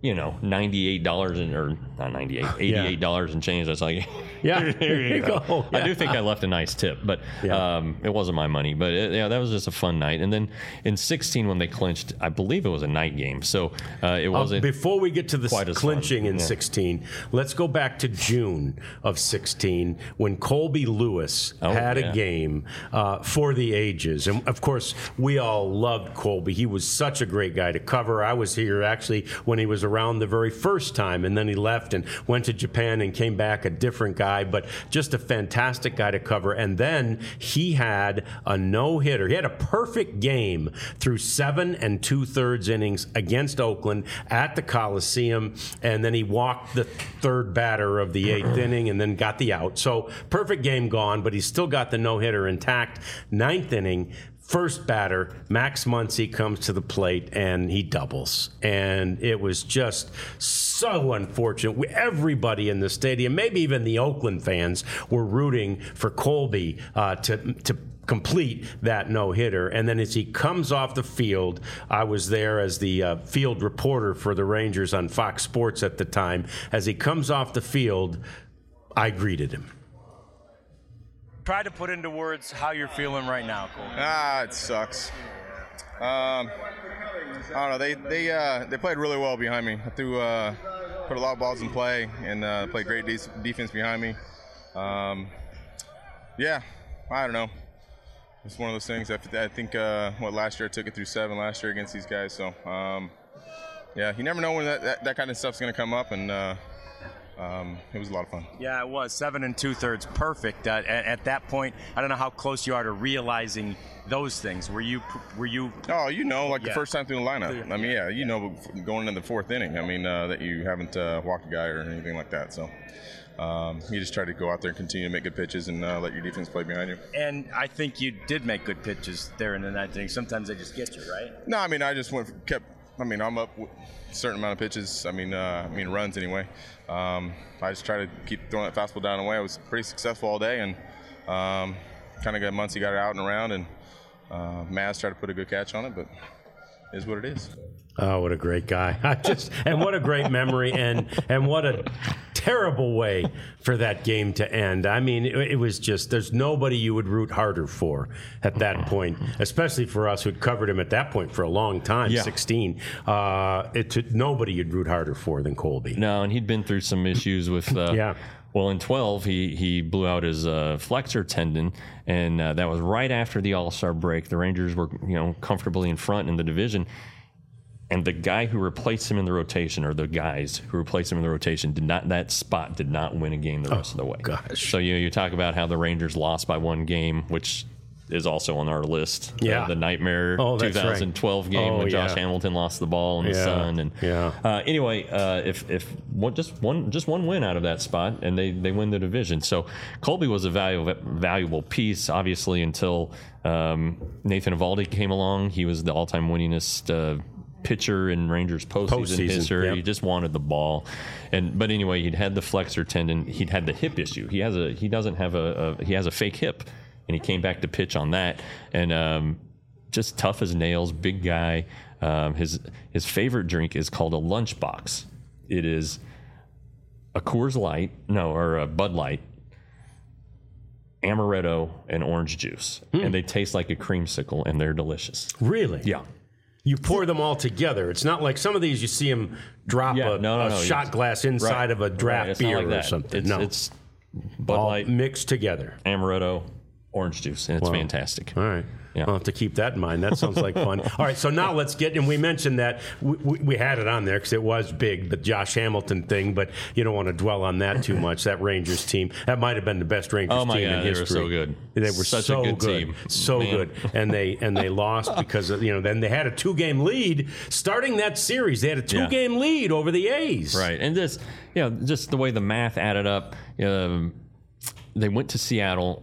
$98 or not 98, $88 and change. That's like, yeah, here you go. Yeah. I do think I left a nice tip, but it wasn't my money. But that was just a fun night. And then in 16, when they clinched, I believe it was a night game, so it wasn't. Before we get to the clinching in 16, let's go back to June of 16 when Colby Lewis had a game for the ages, and of course we all loved Colby. He was such a great guy to cover. I was here actually when he was around the very first time, and then he left and went to Japan and came back a different guy, but just a fantastic guy to cover. And then he had a no-hitter. He had a perfect game through 7 2/3 innings against Oakland at the Coliseum, and then he walked the third batter of the 8th inning and then got the out. So perfect game gone, but he's still got the no-hitter intact. 9th inning, first batter, Max Muncy comes to the plate and he doubles. And it was just so unfortunate. Everybody in the stadium, maybe even the Oakland fans, were rooting for Colby to complete that no-hitter. And then as he comes off the field, I was there as the field reporter for the Rangers on Fox Sports at the time. As he comes off the field, I greeted him. Try to put into words how you're feeling right now, Cole. It sucks. I don't know. They played really well behind me. I put a lot of balls in play and played great defense behind me. I don't know. It's one of those things. I think last year I took it through 7 last year against these guys. So you never know when that kind of stuff's going to come up, and it was a lot of fun. Yeah, it was 7 2/3, perfect. At that point, I don't know how close you are to realizing those things. Were you? Oh, the first time through the lineup. I mean, going into the 4th inning. I mean, that you haven't walked a guy or anything like that. So. You just try to go out there and continue to make good pitches and let your defense play behind you. And I think you did make good pitches there in the 9th inning. Sometimes they just get you, right? No, I mean, I just I'm up with a certain amount of pitches. Runs anyway. I just try to keep throwing that fastball down and away. I was pretty successful all day, and kind of got Muncy got it out and around, and Maz tried to put a good catch on it, but it is what it is. Oh, what a great guy. And what a great memory, and what a terrible way for that game to end. I mean, it was just, there's nobody you would root harder for at that point, especially for us who'd covered him at that point for a long time, 16. Nobody you'd root harder for than Colby. No, and he'd been through some issues with... Well, in 12, he blew out his flexor tendon, and that was right after the All-Star break. The Rangers were, comfortably in front in the division, and the guy who replaced him in the rotation, or the guys who replaced him in the rotation, did not win a game the rest of the way. Gosh. So you talk about how the Rangers lost by 1 game, which is also on our list. Yeah. The nightmare 2012 game when Josh Hamilton lost the ball in the sun. And anyway, if just one win out of that spot, and they win the division. So Colby was a valuable piece, obviously, until Nathan Eovaldi came along. He was the all-time winningest pitcher in Rangers postseason history. He just wanted the ball, but anyway, he'd had the flexor tendon. He'd had the hip issue. He has a fake hip. And he came back to pitch on that, and just tough as nails, big guy. His favorite drink is called a lunchbox. It is a Coors Light, or a Bud Light, amaretto, and orange juice, and they taste like a creamsicle, and they're delicious. Really? Yeah. You pour them all together. It's not like some of these you see them drop a shot glass inside of a draft beer or something. It's Bud Light mixed together. Amaretto, orange juice, and it's fantastic. All right. Yeah. I'll have to keep that in mind. That sounds like fun. All right, so now let's get, and we mentioned that we had it on there because it was big, the Josh Hamilton thing, but you don't want to dwell on that too much. That Rangers team, that might have been the best Rangers team in history. They were so good. They were such so a good team. So good. And they lost because then they had a 2-game lead starting that series. They had a 2-game lead over the A's. Right. And this, just the way the math added up, they went to Seattle.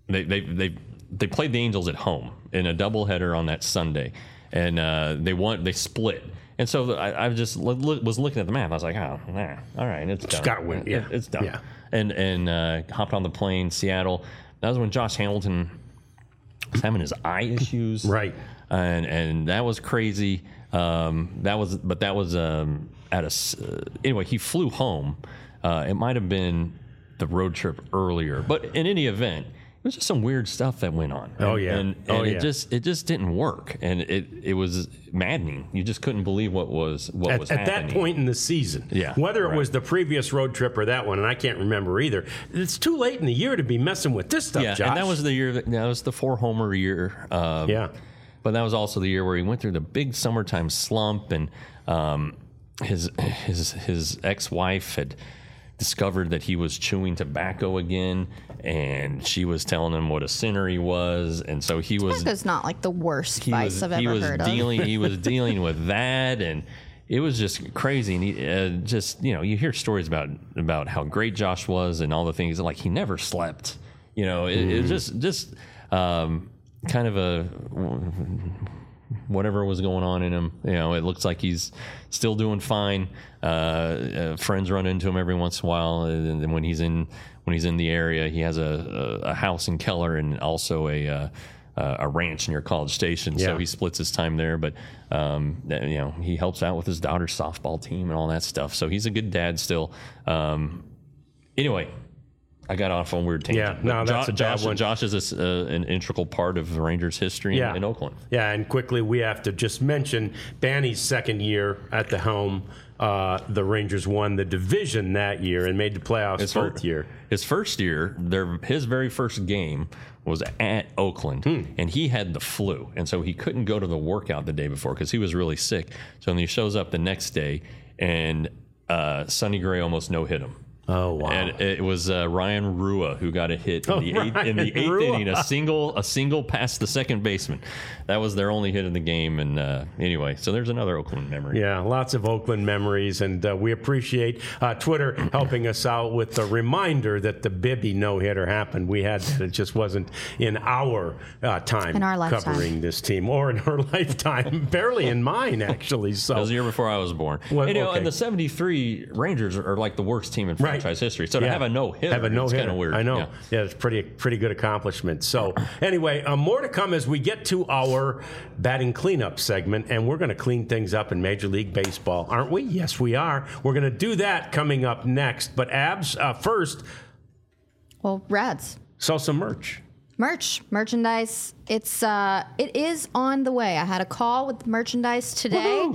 They played the Angels at home in a doubleheader on that Sunday, and they split. And so I just was looking at the map. I was like, all right, it's done. Got to win. Yeah, it's done. Yeah. And hopped on the plane, Seattle. That was when Josh Hamilton was having his eye issues. Right. and that was crazy. Anyway, he flew home. It might have been the road trip earlier, but in any event, it was just some weird stuff that went on. It just didn't work, and it was maddening. You just couldn't believe what was happening at that point in the season. Yeah, whether it was the previous road trip or that one, and I can't remember either. It's too late in the year to be messing with this stuff, yeah, Josh. And that was the year that was the 4-homer year. But that was also the year where he went through the big summertime slump, and his ex-wife had discovered that he was chewing tobacco again, and she was telling him what a sinner he was, and so he was. Tobacco's not like the worst vice I've ever heard of. He was dealing with that, and it was just crazy. And he you hear stories about how great Josh was and all the things. Like he never slept. It just kind of a whatever was going on in him. It looks like he's still doing fine. Friends run into him every once in a while, and when he's in the area, he has a house in Keller and also a ranch near College Station. So he splits his time there, but he helps out with his daughter's softball team and all that stuff. So he's a good dad still. Anyway, I got off on a weird tangent. Yeah, no, that's a bad one. Josh is an integral part of the Rangers' history in Oakland. Yeah, and quickly we have to just mention Banny's second year at the helm. The Rangers won the division that year and made the playoffs both year. His first year, his very first game was at Oakland, and he had the flu, and so he couldn't go to the workout the day before because he was really sick. So when he shows up the next day, and Sonny Gray almost no-hit him. Oh wow! And it was Ryan Rua who got a hit in the eighth inning, a single past the second baseman. That was their only hit in the game. And anyway, so there's another Oakland memory. Yeah, lots of Oakland memories, and we appreciate Twitter helping us out with the reminder that the Bibby no-hitter happened. We had that; it just wasn't in our time covering this team, or in our lifetime, barely in mine actually. So that was the year before I was born. Well, and the '73 Rangers are like the worst team in franchise history. So to have a no-hitter, it's kind of weird. I know. Yeah, it's pretty good accomplishment. So anyway, more to come as we get to our batting cleanup segment, and we're going to clean things up in Major League Baseball, aren't we? Yes, we are. We're going to do that coming up next. But Abs, first. Well, Rads. Sell some merchandise. It is on the way. I had a call with merchandise today.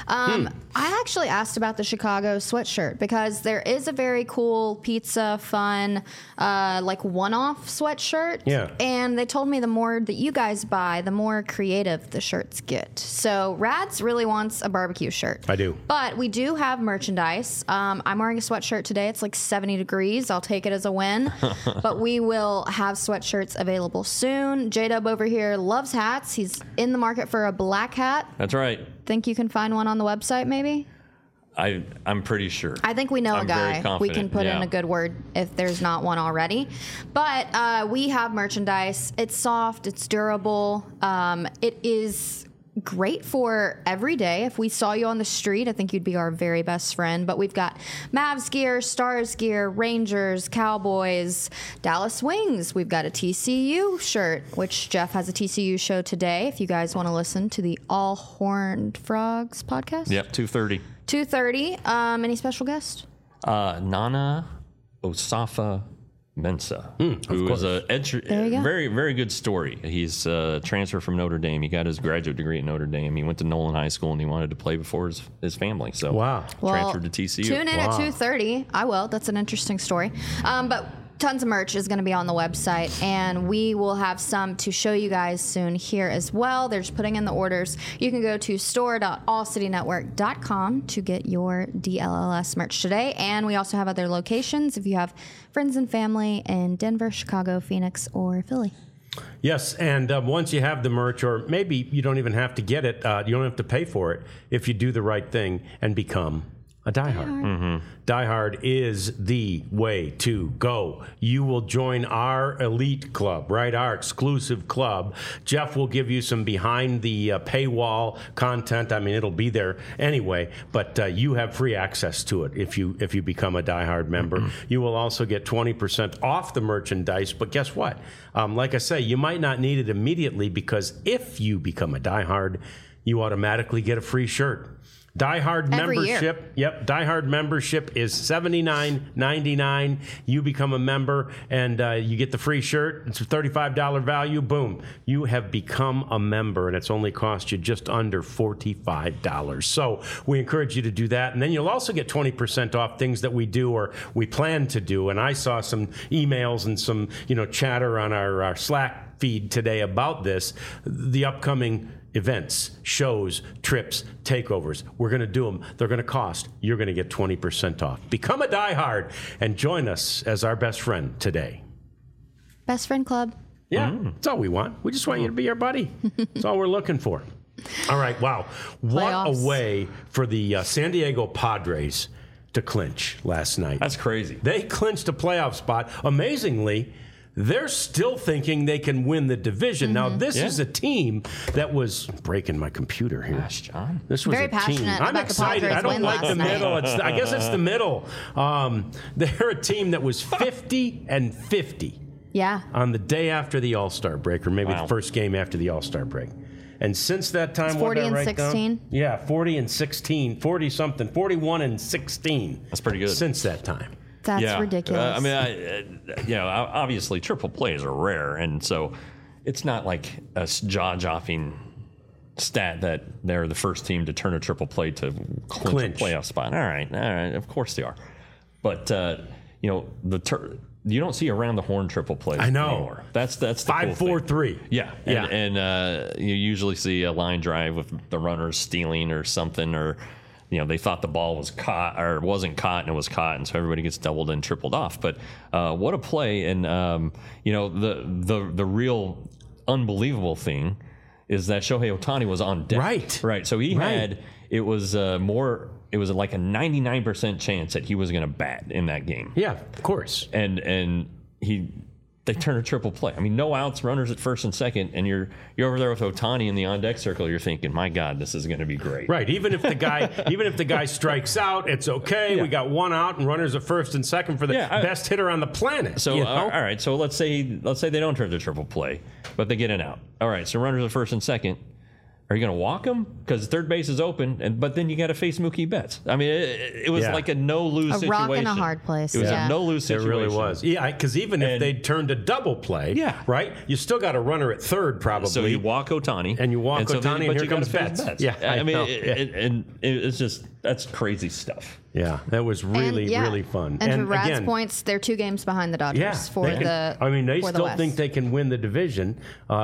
I actually asked about the Chicago sweatshirt because there is a very cool pizza fun like one-off sweatshirt. Yeah. And they told me the more that you guys buy, the more creative the shirts get. So Rads really wants a barbecue shirt. I do. But we do have merchandise. I'm wearing a sweatshirt today. It's like 70 degrees. I'll take it as a win. But we will have sweatshirts available soon. J-Dub over here loves hats. He's in the market for a black hat. That's right. Think you can find one on the website, maybe? I'm pretty sure. I think we know a guy. We can put in a good word if there's not one already. But we have merchandise. It's soft. It's durable. It is great for every day. If we saw you on the street, I think you'd be our very best friend. But we've got Mavs gear, Stars gear, Rangers, Cowboys, Dallas Wings. We've got a TCU shirt, which Jeff has a TCU show today. If you guys want to listen to the All Horned Frogs podcast. Yep, 2:30. 2:30. Any special guest? Nana Osafa Mensa, who is a very, very good story. He's transferred from Notre Dame. He got his graduate degree at Notre Dame. He went to Nolan High School, and he wanted to play before his family. So transferred to TCU. Tune in at 2:30. I will. That's an interesting story. But tons of merch is going to be on the website, and we will have some to show you guys soon here as well. They're just putting in the orders. You can go to store.allcitynetwork.com to get your DLLS merch today, and we also have other locations if you have friends and family in Denver, Chicago, Phoenix, or Philly. Yes, and once you have the merch, or maybe you don't even have to get it, you don't have to pay for it if you do the right thing and become A diehard. Diehard is the way to go. You will join our elite club, right? Our exclusive club. Jeff will give you some behind the paywall content. I mean, it'll be there anyway, but you have free access to it if you become a diehard member. You will also get 20% off the merchandise. But guess what? Like I say, you might not need it immediately, because if you become a diehard, you automatically get a free shirt. Diehard membership. Yep. Diehard membership is $79.99. You become a member and you get the free shirt. It's a $35 value. Boom. You have become a member, and it's only cost you just under $45. So we encourage you to do that. And then you'll also get 20% off things that we do or we plan to do. And I saw some emails and some, chatter on our Slack feed today about this. The upcoming events, shows, trips, takeovers. We're going to do them. They're going to cost. You're going to get 20% off. Become a diehard and join us as our best friend today. Best friend club. Yeah, that's all we want. We just want you to be our buddy. That's all we're looking for. All right, wow. What a way for the San Diego Padres to clinch last night. That's crazy. They clinched a playoff spot. Amazingly, they're still thinking they can win the division. Now, this is a team that was breaking my computer here. Gosh, John. This was very a passionate team. I'm about excited. The Padres I don't win like the last middle. night. I guess it's the middle. They're a team that was 50-50 on the day after the All-Star break, or maybe the first game after the All-Star break. And since that time, 40-16. Yeah, 40-16, 40-something, 41-16. That's pretty good. Since that time. That's ridiculous. Obviously triple plays are rare, and so it's not like a jaw-dropping stat that they're the first team to turn a triple play to clinch a playoff spot. All right, of course they are. But you don't see around the horn triple plays anymore. That's the 5-4-3. Yeah, and you usually see a line drive with the runners stealing or something, or they thought the ball was caught or wasn't caught, and it was caught, and so everybody gets doubled and tripled off. But what a play! And the real unbelievable thing is that Shohei Ohtani was on deck. Right. So he had it was like a 99% chance that he was going to bat in that game. Yeah, of course. And they turn a triple play. I mean, no outs, runners at first and second, and you're over there with Ohtani in the on deck circle. You're thinking, my God, this is going to be great. Right. Even if the guy strikes out, it's okay. Yeah. We got one out and runners at first and second for the best hitter on the planet. So all right. So let's say they don't turn to triple play, but they get an out. All right. So runners at first and second. Are you going to walk him? Because third base is open, but then you got to face Mookie Betts. I mean, it was like a no-lose situation. A rock in a hard place. It was a no-lose situation. It really was. Yeah, because even if they turned a double play, right, you still got a runner at third probably. So you walk Ohtani. And you walk Ohtani, and here comes Betts. Yeah, I mean, it's just, that's crazy stuff. Yeah, that was really fun. And to Rad's points, they're 2 games behind the Dodgers they still think they can win the division.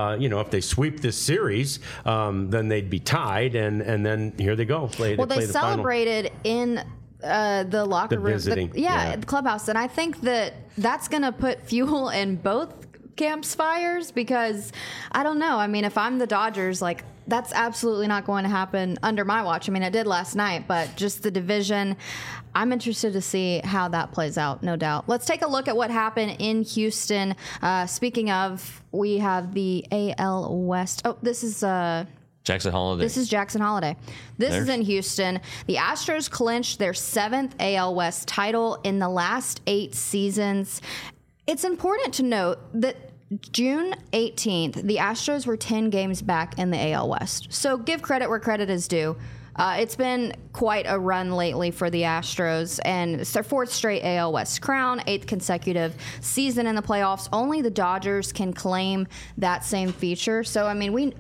If they sweep this series, then they'd be tied, and then here they go. They celebrated in the locker room, the clubhouse, and I think that's going to put fuel in both camps' fires, because I don't know. I mean, if I'm the Dodgers, that's absolutely not going to happen under my watch. I mean, it did last night, but just the division, I'm interested to see how that plays out, no doubt. Let's take a look at what happened in Houston. Speaking of, we have the AL West. Oh, this is Jackson Holiday. This is Jackson Holiday. This is in Houston. The Astros clinched their 7th AL West title in the last 8 seasons. It's important to note that June 18th, the Astros were 10 games back in the AL West. So give credit where credit is due. It's been quite a run lately for the Astros, and it's their 4th straight AL West crown, 8th consecutive season in the playoffs. Only the Dodgers can claim that same feature. So, I mean,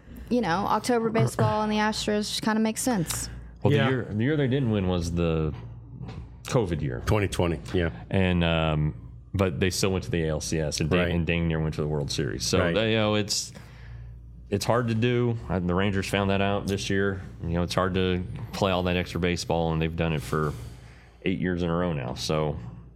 October baseball and the Astros just kind of makes sense. Well, the year they didn't win was the COVID year. 2020, yeah. And but they still went to the ALCS, and dang near went to the World Series. So it's hard to do. The Rangers found that out this year. It's hard to play all that extra baseball, and they've done it for 8 years in a row now. So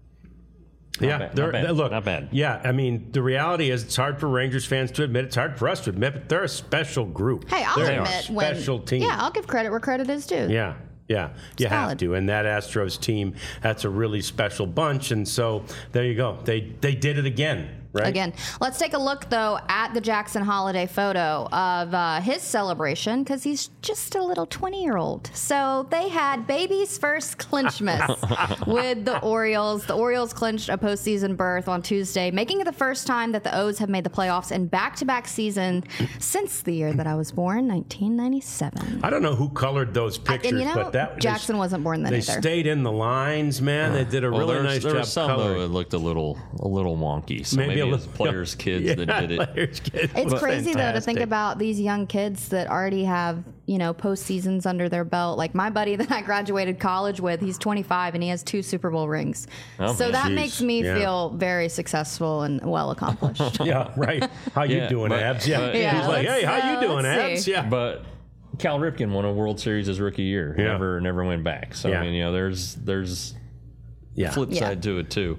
not bad. Yeah, I mean, the reality is it's hard for Rangers fans to admit. It's hard for us to admit, but they're a special group. Hey, I'll admit special team. Yeah, I'll give credit where credit is due. Yeah. Yeah, you have to. And that Astros team, that's a really special bunch. And so there you go. They did it again. Right? Again, let's take a look, though, at the Jackson Holiday photo of his celebration, because he's just a little 20-year-old. So they had baby's first clinchmas with the Orioles. The Orioles clinched a postseason berth on Tuesday, making it the first time that the O's have made the playoffs in back-to-back season since the year that I was born, 1997. I don't know who colored those pictures, but Jackson wasn't born then either. They stayed in the lines, man. They did a really nice job. There were some, coloring. though, it looked a little wonky. So maybe it was players' kids that did it. It's crazy, though, to think about these young kids that already have, postseasons under their belt. Like my buddy that I graduated college with, he's 25 and he has 2 Super Bowl rings. So that makes me feel very successful and well accomplished. Yeah, right. How you doing, Abs? Yeah. He's like, hey, how you doing, Abs? Yeah. But Cal Ripken won a World Series his rookie year. Never went back. So, I mean, there's flip side to it, too.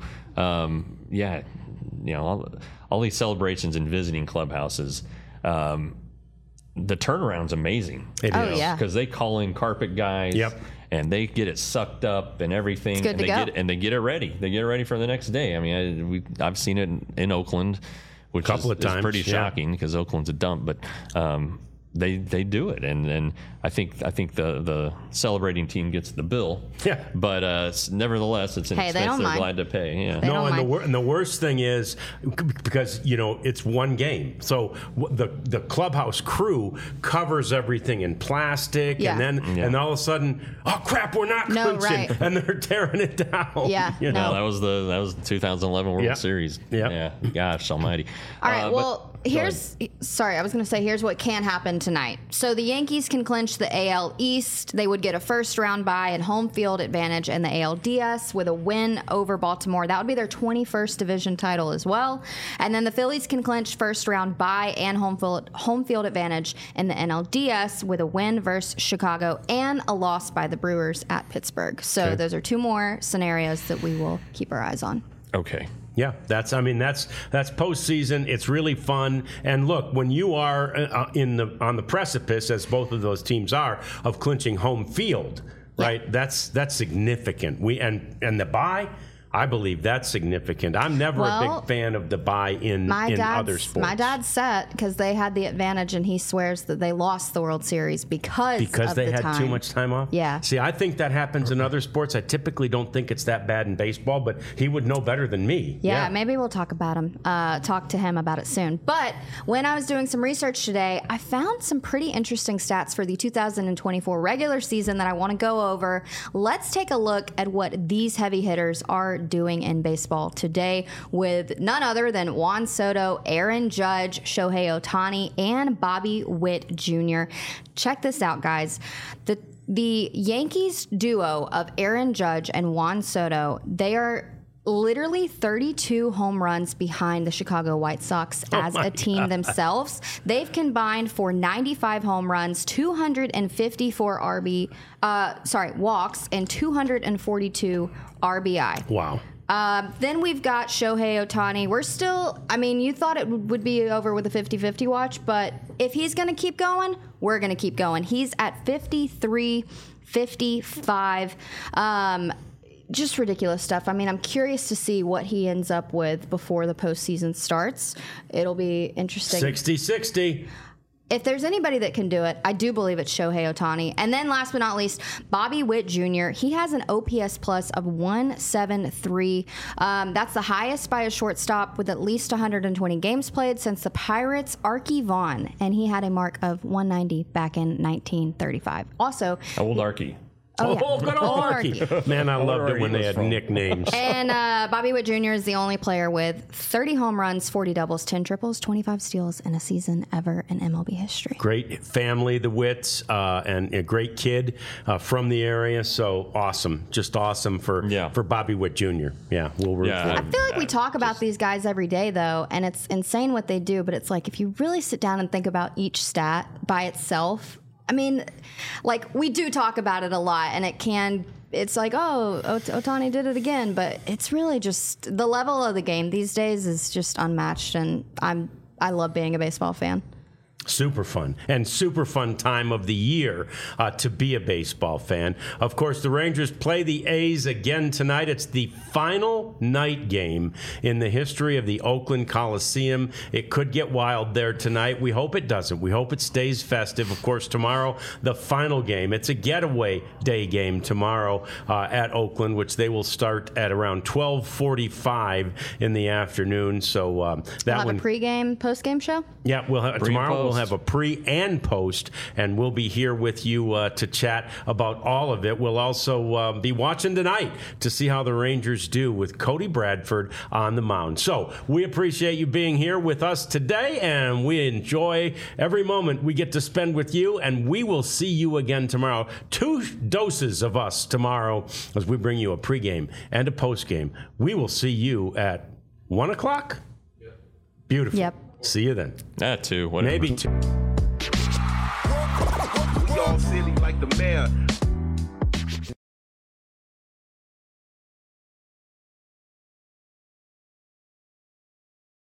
All these celebrations in visiting clubhouses, the turnaround's amazing. It is. Yeah. Because they call in carpet guys. Yep. And they get it sucked up and everything. It's good to go. They get it ready. They get it ready for the next day. I mean, I've seen it in Oakland, which is pretty shocking because Oakland's a dump. But they do it, and I think the celebrating team gets the bill. Yeah. But nevertheless, it's an expense they're glad to pay. Yeah. And the worst thing is because it's one game, so the clubhouse crew covers everything in plastic, and then and all of a sudden, oh crap, we're not clinching, and they're tearing it down. Yeah. That was the 2011 World Series. Yeah. Gosh Almighty. All right. Well. Here's what can happen tonight. So the Yankees can clinch the AL East. They would get a first round bye and home field advantage in the ALDS with a win over Baltimore. That would be their 21st division title as well. And then the Phillies can clinch first round bye and home field advantage in the NLDS with a win versus Chicago and a loss by the Brewers at Pittsburgh. So those are 2 more scenarios that we will keep our eyes on. Okay. Yeah, that's postseason. It's really fun. And look, when you are on the precipice, as both of those teams are, of clinching home field, right? That's significant. And the bye, I believe that's significant. I'm never a big fan of the bye in other sports. My dad's set because they had the advantage, and he swears that they lost the World Series because they had too much time off? Yeah. See, I think that happens in other sports. I typically don't think it's that bad in baseball, but he would know better than me. Yeah, maybe we'll talk to him about it soon. But when I was doing some research today, I found some pretty interesting stats for the 2024 regular season that I want to go over. Let's take a look at what these heavy hitters are doing in baseball today with none other than Juan Soto, Aaron Judge, Shohei Ohtani, and Bobby Witt Jr. Check this out, guys. The Yankees duo of Aaron Judge and Juan Soto, they are literally 32 home runs behind the Chicago White Sox as a team themselves. They've combined for 95 home runs, 254 walks, and 242 RBI. Wow. Then we've got Shohei Ohtani. We're still, you thought it would be over with a 50-50 watch, but if he's going to keep going, we're going to keep going. He's at 53, 55. Just ridiculous stuff. I'm curious to see what he ends up with before the postseason starts. It'll be interesting. 60-60. If there's anybody that can do it, I do believe it's Shohei Ohtani. And then last but not least, Bobby Witt Jr. He has an OPS plus of 173. That's the highest by a shortstop with at least 120 games played since the Pirates' Archie Vaughn. And he had a mark of 190 back in 1935. Also, how old Archie? Good old Archie. Man, I loved it when they had nicknames. And Bobby Witt Jr. is the only player with 30 home runs, 40 doubles, 10 triples, 25 steals in a season ever in MLB history. Great family, the Witts, and a great kid from the area. So awesome. Just awesome for Bobby Witt Jr. Yeah, we'll root for him. I feel like we talk about these guys every day, though, and it's insane what they do. But it's like if you really sit down and think about each stat by itself, we do talk about it a lot, and it's like, Ohtani did it again, but it's really just the level of the game these days is just unmatched, and I love being a baseball fan. Super fun, and super fun time of the year to be a baseball fan. Of course, the Rangers play the A's again tonight. It's the final night game in the history of the Oakland Coliseum. It could get wild there tonight. We hope it doesn't. We hope it stays festive. Of course, tomorrow, the final game. It's a getaway day game tomorrow at Oakland, which they will start at around 12:45 in the afternoon. So that we'll have a pregame, postgame show? Yeah, tomorrow we'll have a pre and post, and we'll be here with you to chat about all of it. We'll also be watching tonight to see how the Rangers do with Cody Bradford on the mound. So we appreciate you being here with us today, and we enjoy every moment we get to spend with you, and we will see you again tomorrow. 2 doses of us tomorrow as we bring you a pregame and a postgame. We will see you at 1 o'clock. Beautiful. Yep. See you then. That too. Whatever. Maybe 2. We all silly like the mayor.